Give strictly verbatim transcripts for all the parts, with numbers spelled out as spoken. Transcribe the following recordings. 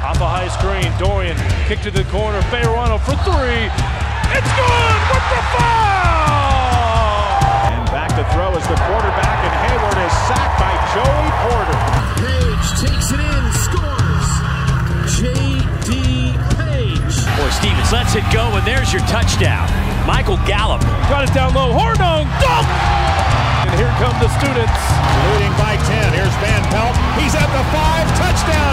Off a high screen, Dorian kick to the corner, Fayerano for three. It's good with the foul! And back to throw is the quarterback, and Hayward is sacked by Joey Porter. Page takes it in, scores. J D. Page. Boy, Stevens lets it go, and there's your touchdown. Michael Gallup. Got it down low, Hornung, dunk! And here come the students. Leading by ten, here's Van Pelt. He's at the five, touchdown,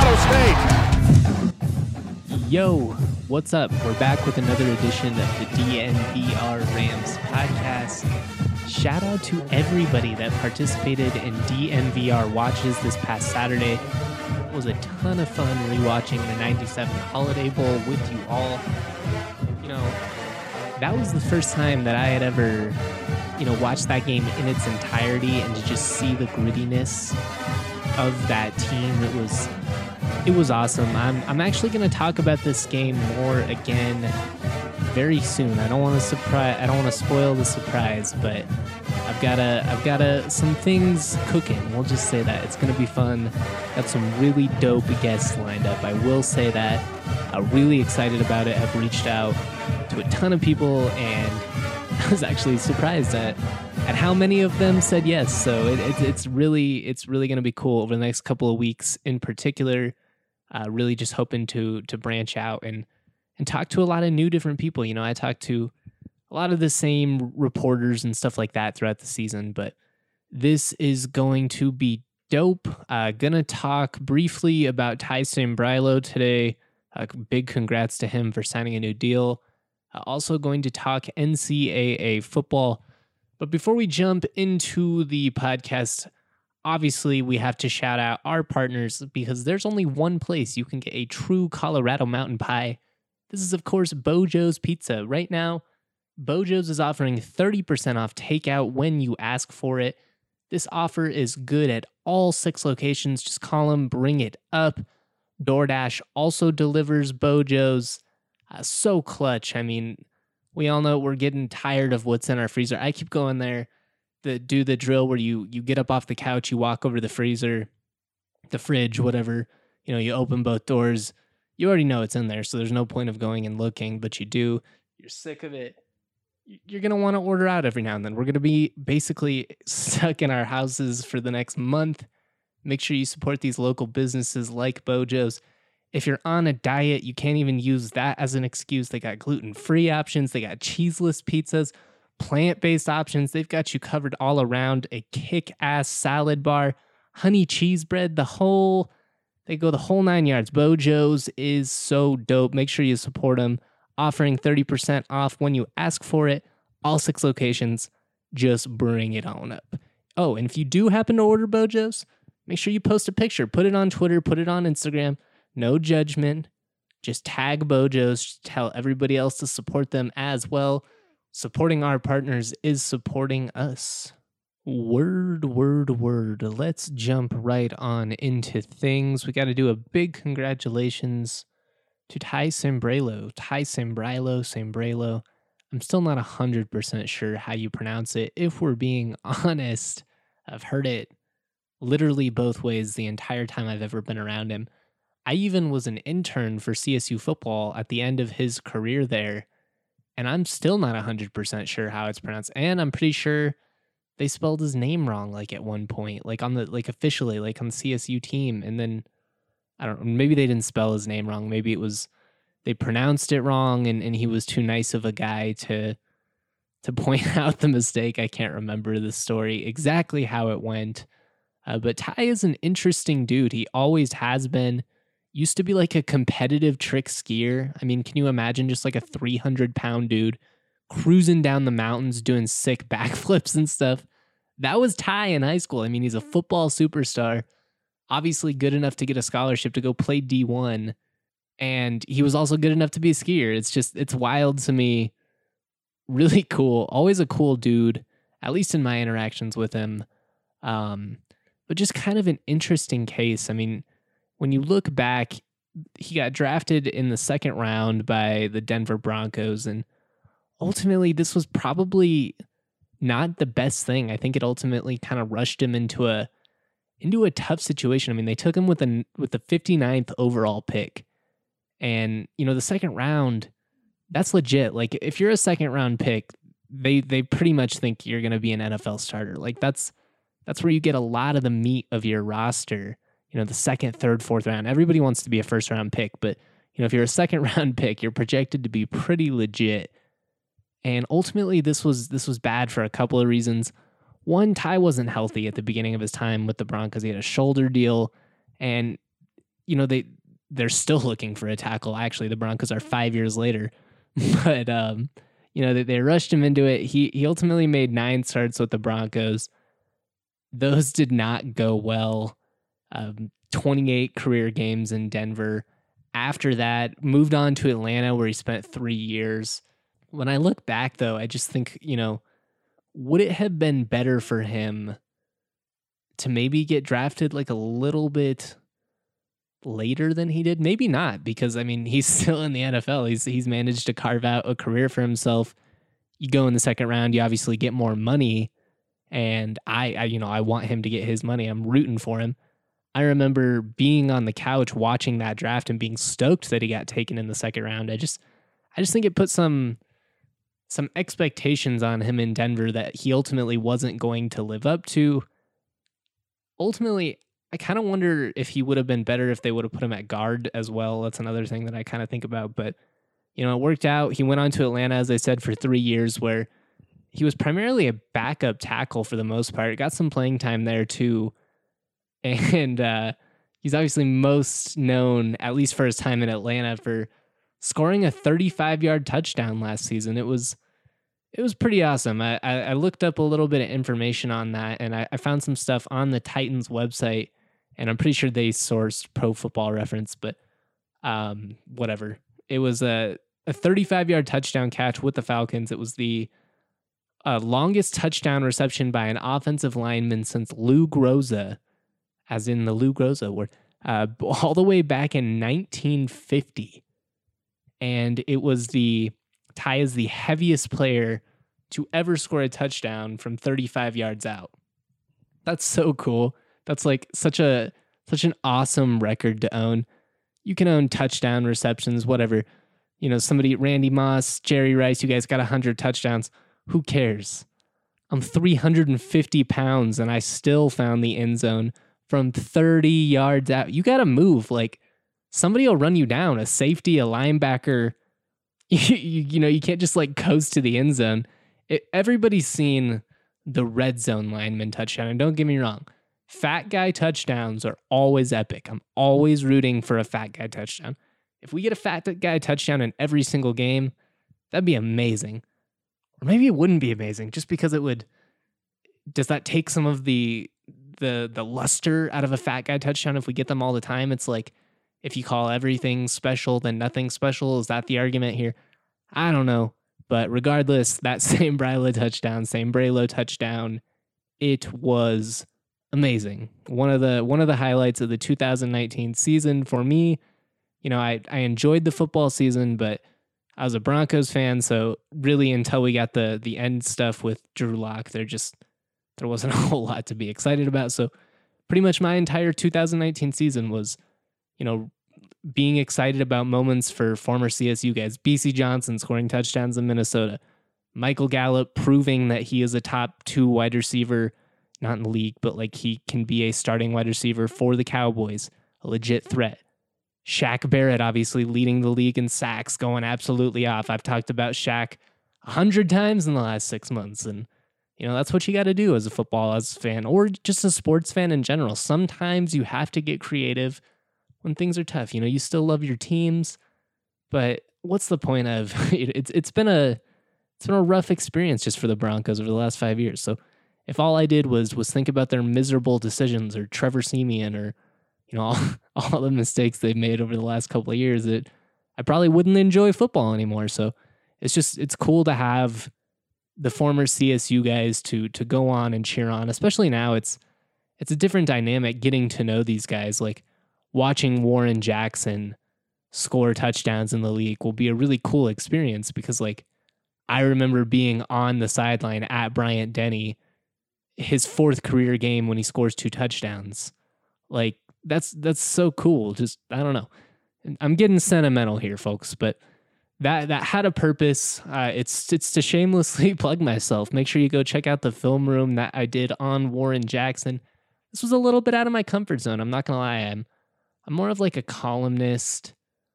Colorado State. Yo, what's up? We're back with another edition of the D N V R Rams podcast. Shout out to everybody that participated in D N V R watches this past Saturday. It was a ton of fun rewatching the ninety-seven Holiday Bowl with you all. You know, that was the first time that I had ever, you know, watched that game in its entirety and to just see the grittiness of that team. It was it was awesome. I'm I'm actually going to talk about this game more again very soon. I don't want to surprise I don't want to spoil the surprise, but I've got a I've got a some things cooking. We'll just say that. It's going to be fun. Got some really dope guests lined up. I will say that. I'm really excited about it. I've reached out to a ton of people, and I was actually surprised at at how many of them said yes. So it, it, it's really it's really going to be cool over the next couple of weeks. In particular, uh, really just hoping to to branch out and and talk to a lot of new different people. You know, I talked to a lot of the same reporters and stuff like that throughout the season, but this is going to be dope. Uh, gonna talk briefly about Ty Sambrailo today. Uh, big congrats to him for signing a new deal. Uh, also going to talk N C double A football. But before we jump into the podcast, obviously we have to shout out our partners because there's only one place you can get a true Colorado mountain pie. This is, of course, Bojo's Pizza. Right now, Bojo's is offering thirty percent off takeout when you ask for it. This offer is good at all six locations. Just call them, bring it up. DoorDash also delivers Bojo's. Uh, so clutch. I mean, we all know we're getting tired of what's in our freezer. I keep going there to do the drill where you you get up off the couch, you walk over to the freezer, the fridge, whatever. You know, you open both doors. You already know it's in there, so there's no point of going and looking, but you do. You're sick of it. You're going to want to order out every now and then. We're going to be basically stuck in our houses for the next month. Make sure you support these local businesses like Bojo's. If you're on a diet, you can't even use that as an excuse. They got gluten-free options. They got cheeseless pizzas, plant-based options. They've got you covered all around. A kick-ass salad bar, honey cheese bread, the whole, they go the whole nine yards. Bojo's is so dope. Make sure you support them. Offering thirty percent off when you ask for it. All six locations. Just bring it on up. Oh, and if you do happen to order Bojo's, make sure you post a picture. Put it on Twitter. Put it on Instagram. No judgment. Just tag Bojo's. Tell everybody else to support them as well. Supporting our partners is supporting us. Word, word, word. Let's jump right on into things. We got to do a big congratulations to Ty Sambrailo. Ty Sambrailo, Sambrailo. I'm still not one hundred percent sure how you pronounce it. If we're being honest, I've heard it literally both ways the entire time I've ever been around him. I even was an intern for C S U football at the end of his career there, and I'm still not one hundred percent sure how it's pronounced. And I'm pretty sure they spelled his name wrong, like at one point, like on the, like officially, like on the C S U team. And then, I don't know, maybe they didn't spell his name wrong. Maybe it was, they pronounced it wrong and, and he was too nice of a guy to, to point out the mistake. I can't remember the story exactly how it went. Uh, but Ty is an interesting dude. He always has been. Used to be like a competitive trick skier. I mean, can you imagine just like a three hundred pound dude cruising down the mountains doing sick backflips and stuff? That was Ty in high school. I mean, he's a football superstar, obviously good enough to get a scholarship to go play D one. And he was also good enough to be a skier. It's just, it's wild to me. Really cool. Always a cool dude, at least in my interactions with him. Um, but just kind of an interesting case. I mean, when you look back, he got drafted in the second round by the Denver Broncos, and ultimately this was probably not the best thing. I think it ultimately kind of rushed him into a into a tough situation. I mean, they took him with the with the fifty-ninth overall pick. And, you know, the second round, that's legit. Like, if you're a second round pick, they they pretty much think you're going to be an N F L starter. Like, that's that's where you get a lot of the meat of your roster. You know, the second, third, fourth round. Everybody wants to be a first round pick, but, you know, if you're a second round pick, you're projected to be pretty legit. And ultimately, this was this was bad for a couple of reasons. One, Ty wasn't healthy at the beginning of his time with the Broncos. He had a shoulder deal, and, you know, they they're still looking for a tackle. Actually, the Broncos are five years later, but um, you know, they, they rushed him into it. He he ultimately made nine starts with the Broncos. Those did not go well. Um, twenty-eight career games in Denver. After that, moved on to Atlanta, where he spent three years. When I look back, though, I just think, you know, would it have been better for him to maybe get drafted like a little bit later than he did? Maybe not, because I mean, he's still in the N F L. He's he's managed to carve out a career for himself. You go in the second round, you obviously get more money, and I, I you know, I want him to get his money. I'm rooting for him. I remember being on the couch watching that draft and being stoked that he got taken in the second round. I just I just think it put some some expectations on him in Denver that he ultimately wasn't going to live up to. Ultimately, I kind of wonder if he would have been better if they would have put him at guard as well. That's another thing that I kind of think about. But, you know, it worked out. He went on to Atlanta, as I said, for three years, where he was primarily a backup tackle for the most part. Got some playing time there, too. And uh, he's obviously most known, at least for his time in Atlanta, for scoring a thirty-five-yard touchdown last season. It was it was pretty awesome. I, I, I looked up a little bit of information on that, and I, I found some stuff on the Titans website, and I'm pretty sure they sourced Pro Football Reference, but um, whatever. It was a, a thirty-five-yard touchdown catch with the Falcons. It was the uh, longest touchdown reception by an offensive lineman since Lou Groza, as in the Lou Groza word, uh, all the way back in nineteen fifty. And it was the Ty is the heaviest player to ever score a touchdown from thirty-five yards out. That's so cool. That's like such a such an awesome record to own. You can own touchdown receptions, whatever. You know, somebody, Randy Moss, Jerry Rice, you guys got one hundred touchdowns. Who cares? I'm three hundred fifty pounds and I still found the end zone from thirty yards out. You got to move. Like, somebody will run you down, a safety, a linebacker. You, you, you know, you can't just like coast to the end zone. It, everybody's seen the red zone lineman touchdown. And don't get me wrong, fat guy touchdowns are always epic. I'm always rooting for a fat guy touchdown. If we get a fat guy touchdown in every single game, that'd be amazing. Or maybe it wouldn't be amazing just because it would. Does that take some of the the the luster out of a fat guy touchdown if we get them all the time? It's like, if you call everything special, then nothing special. Is that the argument here? I don't know. But regardless, that same Bryla touchdown, same Braylo touchdown, it was amazing. One of the one of the highlights of the two thousand nineteen season for me. You know, I, I enjoyed the football season, but I was a Broncos fan, so really until we got the the end stuff with Drew Lock, there just there wasn't a whole lot to be excited about. So pretty much my entire two thousand nineteen season was, you know, being excited about moments for former C S U guys. B C Johnson scoring touchdowns in Minnesota. Michael Gallup proving that he is a top two wide receiver, not in the league, but like he can be a starting wide receiver for the Cowboys, a legit threat. Shaq Barrett obviously leading the league in sacks, going absolutely off. I've talked about Shaq a hundred times in the last six months, and you know, that's what you got to do as a football as a fan, or just a sports fan in general. Sometimes you have to get creative when things are tough. You know, you still love your teams, but what's the point of it? It's it's been a it's been a rough experience just for the Broncos over the last five years. So if all I did was was think about their miserable decisions, or Trevor Siemian, or you know, all, all the mistakes they've made over the last couple of years, that I probably wouldn't enjoy football anymore. So it's just it's cool to have the former C S U guys to to go on and cheer on. Especially now, it's it's a different dynamic getting to know these guys. Like, watching Warren Jackson score touchdowns in the league will be a really cool experience, because like I remember being on the sideline at Bryant Denny his fourth career game when he scores two touchdowns. Like, that's that's so cool. Just, I don't know. I'm getting sentimental here, folks, but that that had a purpose. Uh, it's it's to shamelessly plug myself. Make sure you go check out the film room that I did on Warren Jackson. This was a little bit out of my comfort zone. I'm not gonna lie. I'm I'm more of like a columnist.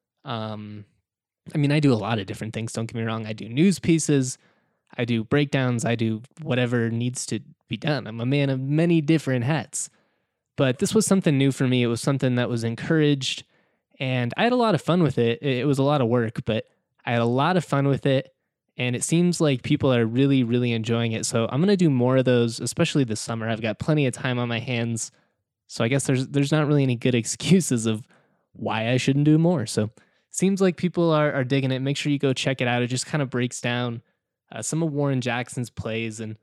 Um, I mean, I do a lot of different things. Don't get me wrong. I do news pieces. I do breakdowns. I do whatever needs to be done. I'm a man of many different hats. But this was something new for me. It was something that was encouraged, and I had a lot of fun with it. It was a lot of work, but I had a lot of fun with it, and it seems like people are really, really enjoying it. So I'm going to do more of those, especially this summer. I've got plenty of time on my hands, so I guess there's there's not really any good excuses of why I shouldn't do more. So seems like people are, are digging it. Make sure you go check it out. It just kind of breaks down uh, some of Warren Jackson's plays and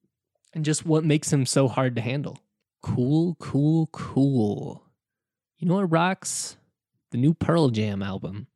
and just what makes him so hard to handle. Cool, cool, cool. You know what rocks? The new Pearl Jam album.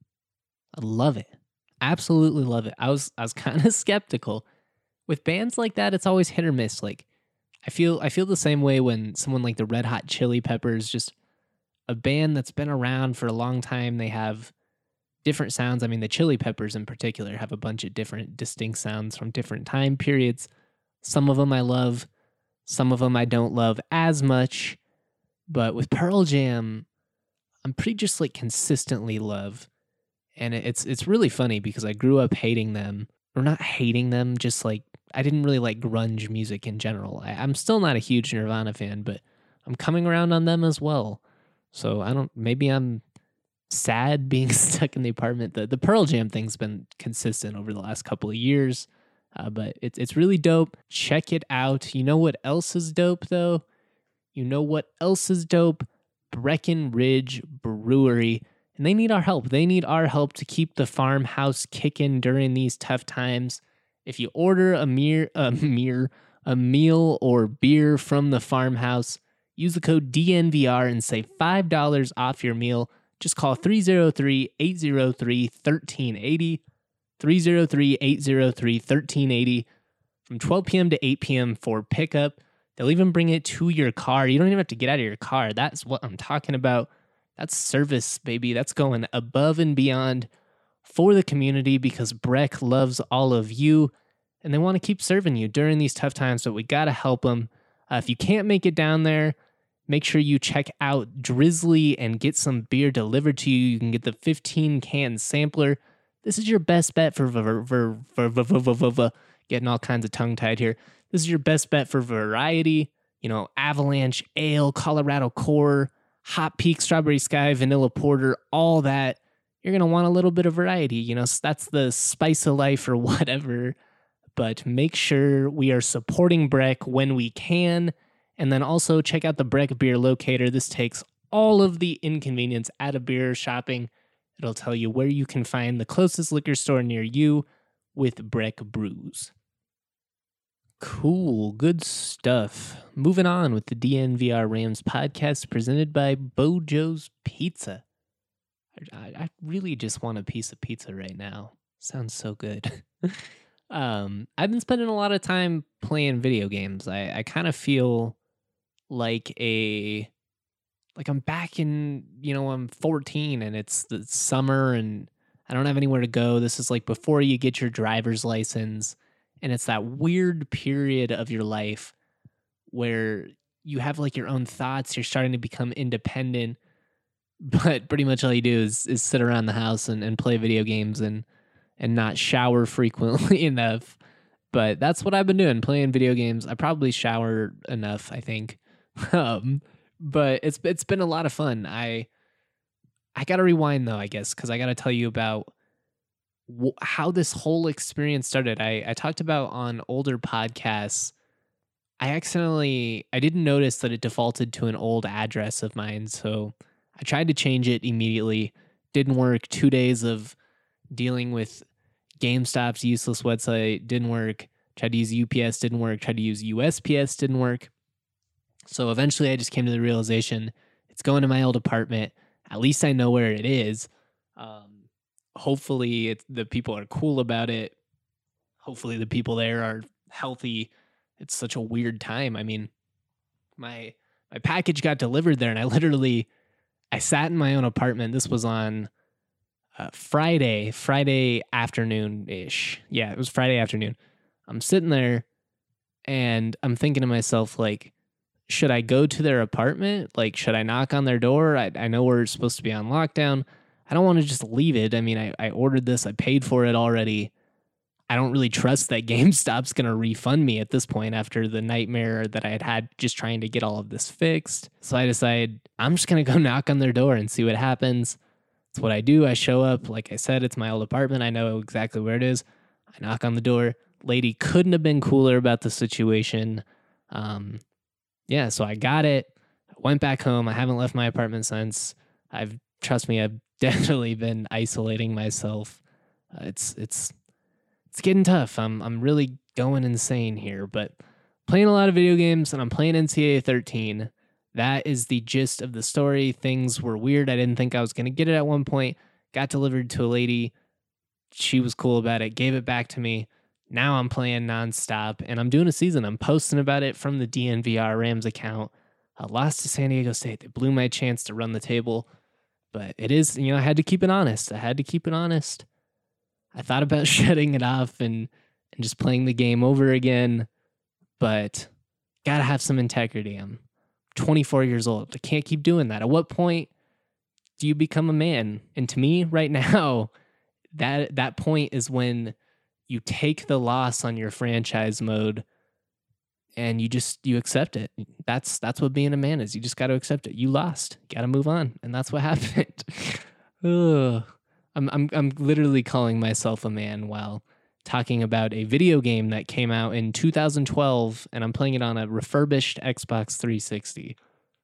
I love it. Absolutely love it. I was I was kind of skeptical. With bands like that, it's always hit or miss. Like, I feel I feel the same way when someone like the Red Hot Chili Peppers, just a band that's been around for a long time, they have different sounds. I mean, the Chili Peppers in particular have a bunch of different distinct sounds from different time periods. Some of them I love. Some of them I don't love as much, but with Pearl Jam, I'm pretty just like consistently love. And it's it's really funny because I grew up hating them, or not hating them, just like I didn't really like grunge music in general. I, I'm still not a huge Nirvana fan, but I'm coming around on them as well. So I don't, maybe I'm sad being stuck in the apartment. The, the Pearl Jam thing's been consistent over the last couple of years. Uh, but it's it's really dope. Check it out. You know what else is dope, though? You know what else is dope? Breckenridge Brewery. And they need our help. They need our help to keep the farmhouse kicking during these tough times. If you order a mere, a mere, a meal or beer from the farmhouse, use the code D N V R and save five dollars off your meal. Just call three oh three, eight oh three, one three eight oh. three oh three, eight oh three, one three eight oh from twelve p.m. to eight p.m. for pickup. They'll even bring it to your car. You don't even have to get out of your car. That's what I'm talking about. That's service, baby. That's going above and beyond for the community because Breck loves all of you and they want to keep serving you during these tough times, but we got to help them. Uh, if you can't make it down there, make sure you check out Drizzly and get some beer delivered to you. You can get the fifteen can sampler. This is your best bet for, for, for, for, for, for, for, for getting all kinds of tongue-tied here. This is your best bet for variety. You know, Avalanche Ale, Colorado Core, Hot Peak, Strawberry Sky, Vanilla Porter, all that. You're going to want a little bit of variety. You know, that's the spice of life or whatever. But make sure we are supporting Breck when we can. And then also check out the Breck Beer Locator. This takes all of the inconvenience out of beer shopping. It'll tell you where you can find the closest liquor store near you with Breck Brews. Cool, good stuff. Moving on with the D N V R Rams podcast presented by Bojo's Pizza. I, I really just want a piece of pizza right now. Sounds so good. um, I've been spending a lot of time playing video games. I, I kind of feel like a... Like I'm back in, you know, I'm fourteen and it's the summer and I don't have anywhere to go. This is like before you get your driver's license. And it's that weird period of your life where you have like your own thoughts. You're starting to become independent, but pretty much all you do is, is sit around the house and, and play video games and, and not shower frequently enough. But that's what I've been doing, playing video games. I probably shower enough, I think. um, But it's it's been a lot of fun. I I got to rewind, though, I guess, because I got to tell you about wh- how this whole experience started. I, I talked about on older podcasts, I accidentally, I didn't notice that it defaulted to an old address of mine. So I tried to change it immediately. Didn't work. Two days of dealing with GameStop's useless website didn't work. Tried to use U P S, didn't work. Tried to use U S P S, didn't work. So eventually I just came to the realization it's going to my old apartment. At least I know where it is. Um, hopefully it, the people are cool about it. Hopefully the people there are healthy it's such a weird time. I mean, my my package got delivered there, and I literally I sat in my own apartment. This was on uh, Friday, Friday afternoon ish. Yeah, it was Friday afternoon. I'm sitting there, and I'm thinking to myself, like, should I go to their apartment? Like, should I knock on their door? I, I know we're supposed to be on lockdown. I don't want to just leave it. I mean, I, I ordered this. I paid for it already. I don't really trust that GameStop's going to refund me at this point after the nightmare that I had had just trying to get all of this fixed. So I decided I'm just going to go knock on their door and see what happens. That's what I do. I show up. Like I said, it's my old apartment. I know exactly where it is. I knock on the door. Lady couldn't have been cooler about the situation. Um, yeah, so I got it. I went back home. I haven't left my apartment since. I've, trust me, I've definitely been isolating myself. Uh, it's, it's, It's getting tough. I'm I'm really going insane here, but playing a lot of video games, and I'm playing N C A A thirteen. That is the gist of the story. Things were weird. I didn't think I was going to get it at one point. Got delivered to a lady. She was cool about it. Gave it back to me. Now I'm playing nonstop, and I'm doing a season. I'm posting about it from the D N V R Rams account. I lost to San Diego State. They blew my chance to run the table, but it is, you know, I had to keep it honest. I had to keep it honest. I thought about shutting it off and, and just playing the game over again, but gotta have some integrity. I'm twenty-four years old. I can't keep doing that. At what point do you become a man? And to me, right now, that that point is when you take the loss on your franchise mode and you just you accept it. That's that's what being a man is. You just got to accept it. You lost. Got to move on, and that's what happened. Ugh. I'm I'm I'm literally calling myself a man while talking about a video game that came out in two thousand twelve, and I'm playing it on a refurbished Xbox three sixty.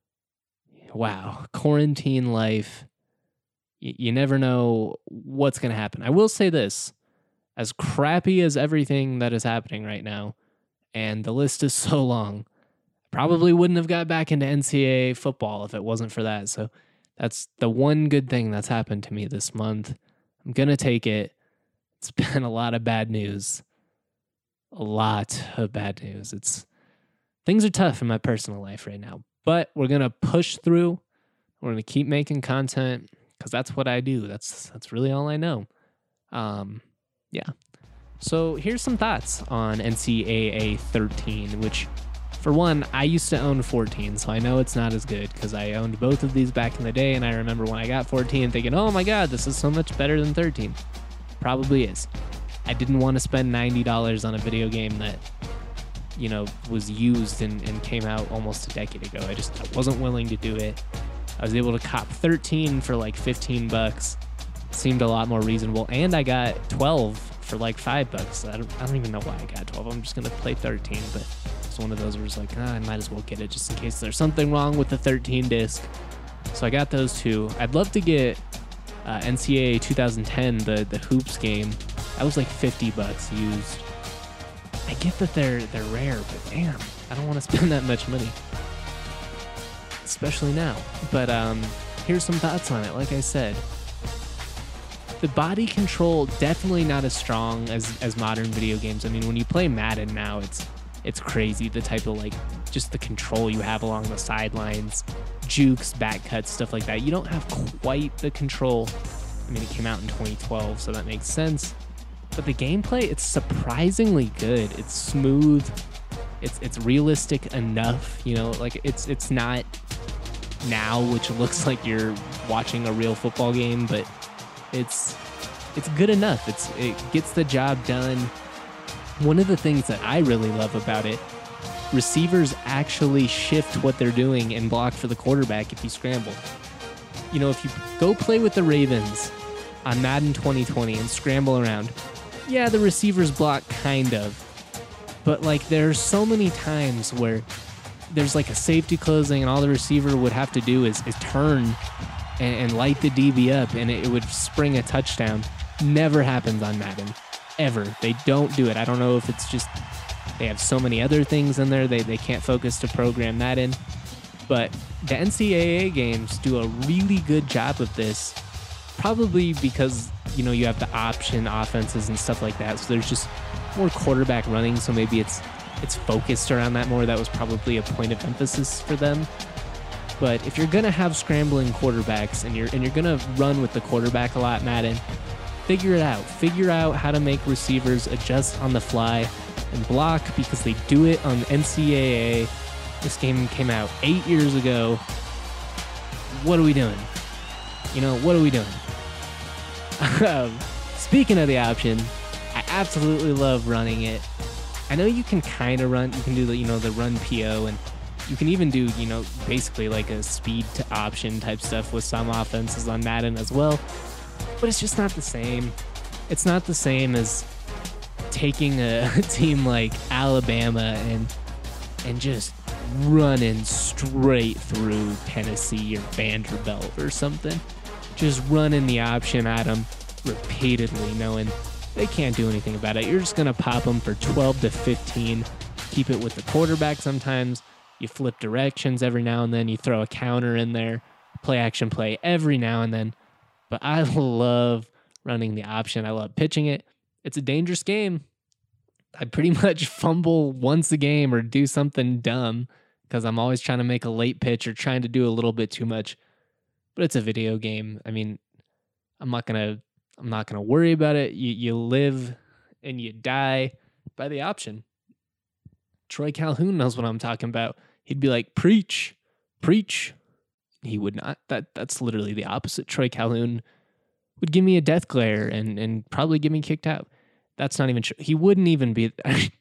Wow, quarantine life. Y- you never know what's going to happen. I will say this, as crappy as everything that is happening right now, and the list is so long, probably wouldn't have got back into N C A A football if it wasn't for that. So that's the one good thing that's happened to me this month. I'm going to take it. It's been a lot of bad news. A lot of bad news. It's things are tough in my personal life right now, but we're going to push through. We're going to keep making content because that's what I do. That's that's really all I know. Um, yeah. So here's some thoughts on N C A A thirteen, which, for one, I used to own fourteen, so I know it's not as good because I owned both of these back in the day, and I remember when I got fourteen thinking, oh my god, this is so much better than thirteen. Probably is. I didn't want to spend ninety dollars on a video game that, you know, was used and, and came out almost a decade ago. I just I wasn't willing to do it. I was able to cop thirteen for like fifteen bucks. Seemed a lot more reasonable, and I got twelve for like five bucks. I don't, I don't even know why I got twelve. I'm just going to play thirteen, but it's one of those where it's like, ah, I might as well get it just in case there's something wrong with the thirteen disc. So I got those two. I'd love to get uh, N C A A twenty ten, the, the Hoops game. That was like fifty bucks used. I get that they're they're rare, but damn, I don't want to spend that much money. Especially now. But um, here's some thoughts on it. Like I said, the body control, definitely not as strong as, as modern video games. I mean, when you play Madden now, it's it's crazy, the type of, like, just the control you have along the sidelines, jukes, back cuts, stuff like that. You don't have quite the control. I mean, it came out in twenty twelve, so that makes sense. But the gameplay, it's surprisingly good. It's smooth. It's it's realistic enough, you know, like it's it's not now, which looks like you're watching a real football game, but it's it's good enough. It's it gets the job done. One of the things that I really love about it, receivers actually shift what they're doing and block for the quarterback if you scramble. You know, if you go play with the Ravens on Madden twenty twenty and scramble around, yeah, the receivers block kind of. But, like, there's so many times where there's, like, a safety closing and all the receiver would have to do is, is turn and, and light the D B up, and it, it would spring a touchdown. Never happens on Madden. Ever. They don't do it. I don't know if it's just they have so many other things in there they, they can't focus to program that in. But the N C A A games do a really good job of this, probably because, you know, you have the option offenses and stuff like that, so there's just more quarterback running, so maybe it's it's focused around that more. That was probably a point of emphasis for them. But if you're gonna have scrambling quarterbacks and you're and you're gonna run with the quarterback a lot, Madden, figure it out. Figure out how to make receivers adjust on the fly and block, because they do it on N C double A. This game came out eight years ago. What are we doing? You know, what are we doing? um, speaking of the option, I absolutely love running it. I know you can kind of run, you can do the, you know, the run P O, and you can even do, you know, basically like a speed to option type stuff with some offenses on Madden as well. But it's just not the same. It's not the same as taking a, a team like Alabama and and just running straight through Tennessee or Vanderbilt or something. Just running the option at them repeatedly, knowing they can't do anything about it. You're just going to pop them for twelve to fifteen. Keep it with the quarterback sometimes. You flip directions every now and then. You throw a counter in there. Play action play every now and then. But I love running the option. I love pitching it. It's a dangerous game. I pretty much fumble once a game or do something dumb because I'm always trying to make a late pitch or trying to do a little bit too much. But it's a video game. I mean, I'm not gonna I'm not gonna worry about it. You you live and you die by the option. Troy Calhoun knows what I'm talking about. He'd be like, preach, preach. He would not. That that's literally the opposite. Troy Calhoun would give me a death glare and and probably get me kicked out. That's not even true. He wouldn't even be.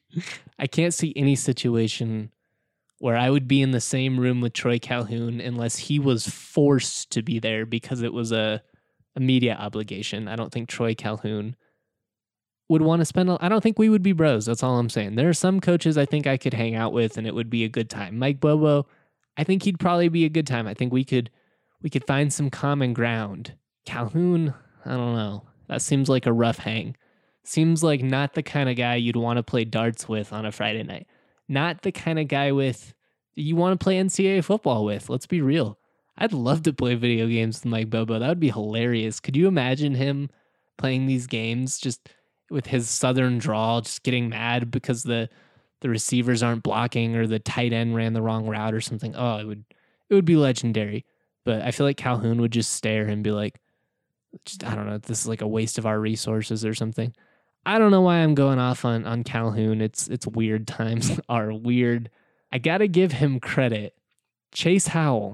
I can't see any situation where I would be in the same room with Troy Calhoun unless he was forced to be there because it was a, a media obligation. I don't think Troy Calhoun would want to spend. A, I don't think we would be bros. That's all I'm saying. There are some coaches I think I could hang out with and it would be a good time. Mike Bobo, I think he'd probably be a good time. I think we could we could find some common ground. Calhoun, I don't know. That seems like a rough hang. Seems like not the kind of guy you'd want to play darts with on a Friday night. Not the kind of guy with you want to play N C double A football with. Let's be real. I'd love to play video games with Mike Bobo. That would be hilarious. Could you imagine him playing these games just with his southern drawl, just getting mad because the the receivers aren't blocking or the tight end ran the wrong route or something? Oh, it would it would be legendary. But I feel like Calhoun would just stare and be like, just, I don't know, this is like a waste of our resources or something. I don't know why I'm going off on, on Calhoun. It's it's weird times are weird. I gotta give him credit. Chase Howell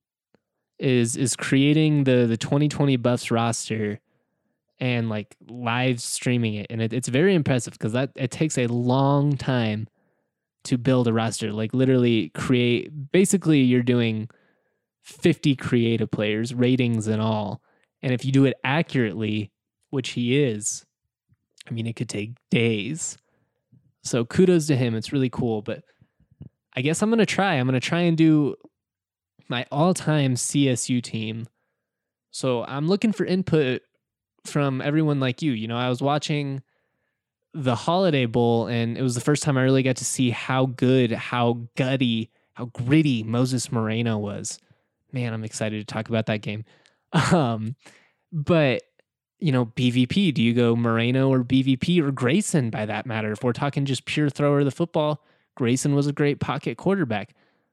is is creating the the twenty twenty Buffs roster and like live streaming it, and it, it's very impressive because that it takes a long time to build a roster. Like literally create. Basically, you're doing fifty creative players, ratings and all, and if you do it accurately, which he is. I mean, it could take days. So kudos to him. It's really cool. But I guess I'm going to try. I'm going to try and do my all-time C S U team. So I'm looking for input from everyone like you. You know, I was watching the Holiday Bowl, and it was the first time I really got to see how good, how gutty, how gritty Moses Moreno was. Man, I'm excited to talk about that game. Um, but... You know, B V P, do you go Moreno or B V P or Grayson by that matter? If we're talking just pure thrower of the football, Grayson was a great pocket quarterback.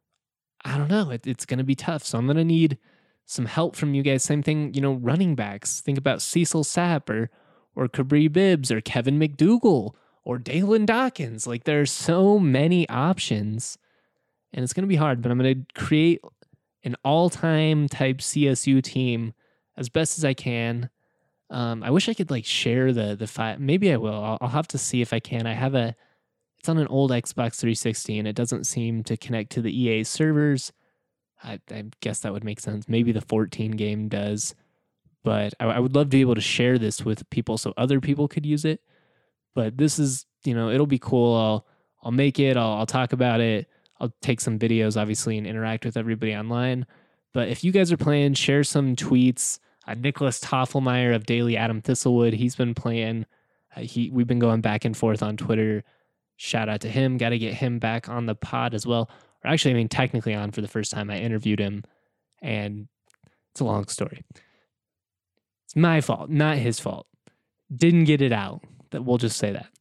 I don't know. It, it's going to be tough. So I'm going to need some help from you guys. Same thing, you know, running backs. Think about Cecil Sapp or, or Cabri Bibbs or Kevin McDougal or Dalen Dawkins. Like there are so many options and it's going to be hard, but I'm going to create an all-time type C S U team as best as I can. Um, I wish I could like share the the file. Maybe I will. I'll, I'll have to see if I can. I have a. It's on an old Xbox three sixty, and it doesn't seem to connect to the E A servers. I, I guess that would make sense. Maybe the fourteen game does, but I, I would love to be able to share this with people so other people could use it. But this is, you know, it'll be cool. I'll I'll make it. I'll, I'll talk about it. I'll take some videos, obviously, and interact with everybody online. But if you guys are playing, share some tweets. Uh, Nicholas Toffelmeyer of Daily Adam Thistlewood, he's been playing. Uh, he We've been going back and forth on Twitter. Shout out to him. Got to get him back on the pod as well. Or actually, I mean, technically on for the first time. I interviewed him, and it's a long story. It's my fault, not his fault. Didn't get it out. That we'll just say that.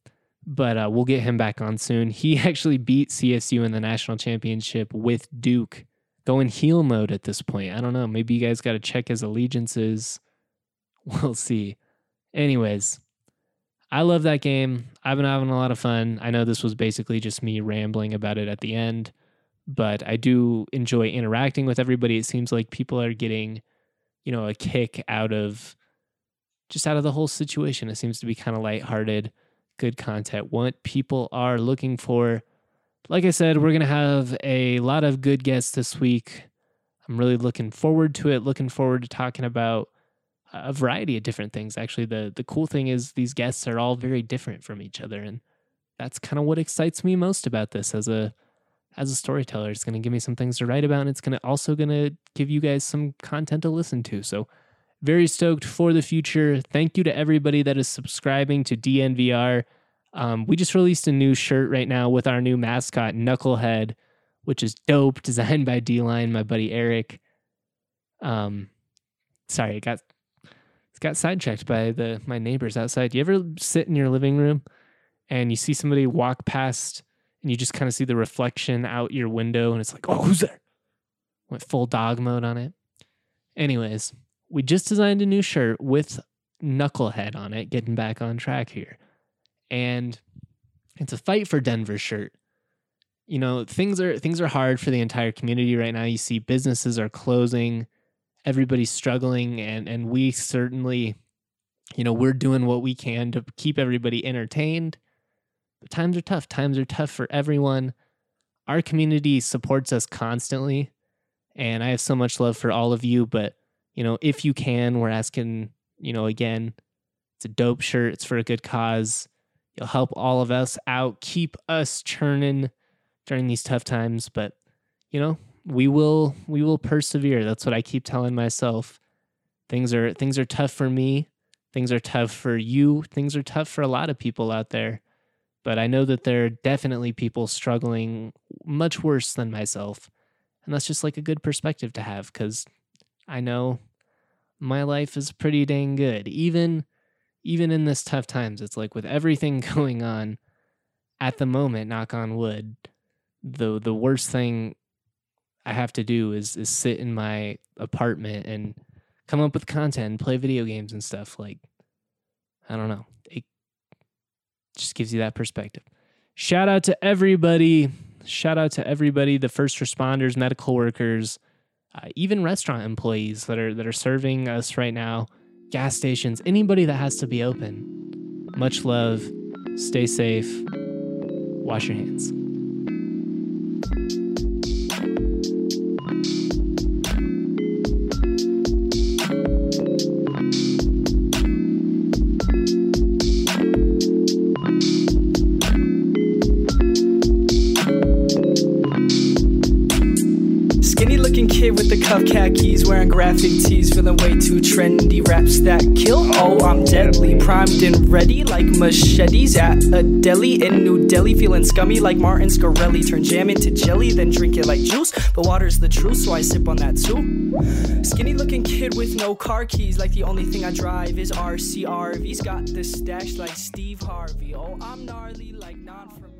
but uh, we'll get him back on soon. He actually beat C S U in the national championship with Duke, going heel mode at this point. I don't know. Maybe you guys got to check his allegiances. We'll see. Anyways, I love that game. I've been having a lot of fun. I know this was basically just me rambling about it at the end, but I do enjoy interacting with everybody. It seems like people are getting, you know, a kick out of just out of the whole situation. It seems to be kind of lighthearted, good content, what people are looking for. Like I said, we're going to have a lot of good guests this week. I'm really looking forward to it, looking forward to talking about a variety of different things. Actually, the the cool thing is these guests are all very different from each other, and that's kind of what excites me most about this as a as a storyteller. It's going to give me some things to write about, and it's going to also going to give you guys some content to listen to. So very stoked for the future. Thank you to everybody that is subscribing to D N V R. Um, we just released a new shirt right now with our new mascot, Knucklehead, which is dope, designed by D-Line, my buddy Eric. Um, sorry, I got got sidetracked by the my neighbors outside. You ever sit in your living room and you see somebody walk past and you just kind of see the reflection out your window and it's like, oh, who's there? Went full dog mode on it. Anyways, we just designed a new shirt with Knucklehead on it, getting back on track here. And it's a Fight for Denver shirt. You know, things are things are hard for the entire community right now. You see businesses are closing. Everybody's struggling, and and we certainly, you know, we're doing what we can to keep everybody entertained. But times are tough. Times are tough for everyone. Our community supports us constantly, and I have so much love for all of you. But, you know, if you can, we're asking, you know, again, it's a dope shirt. It's for a good cause. You'll help all of us out, keep us churning during these tough times. But, you know, we will we will persevere. That's what I keep telling myself. Things are things are tough for me. Things are tough for you. Things are tough for a lot of people out there. But I know that there are definitely people struggling much worse than myself. And that's just like a good perspective to have, because I know my life is pretty dang good. Even even in this tough times, it's like with everything going on at the moment, knock on wood, the the worst thing I have to do is is sit in my apartment and come up with content and play video games and stuff. Like, I don't know. It just gives you that perspective. Shout out to everybody. Shout out to everybody, the first responders, medical workers, uh, even restaurant employees that are that are serving us right now, gas stations, anybody that has to be open. Much love. Stay safe. Wash your hands. With the cuff khakis, wearing graphic tees, feeling way too trendy. Raps that kill, oh, I'm deadly. Primed and ready like machetes at a deli in New Delhi. Feeling scummy like Martin Scarelli. Turn jam into jelly, then drink it like juice. But water's the truth, so I sip on that too. Skinny looking kid with no car keys, like the only thing I drive is R C R V's. Got the stash like Steve Harvey. Oh, I'm gnarly like non from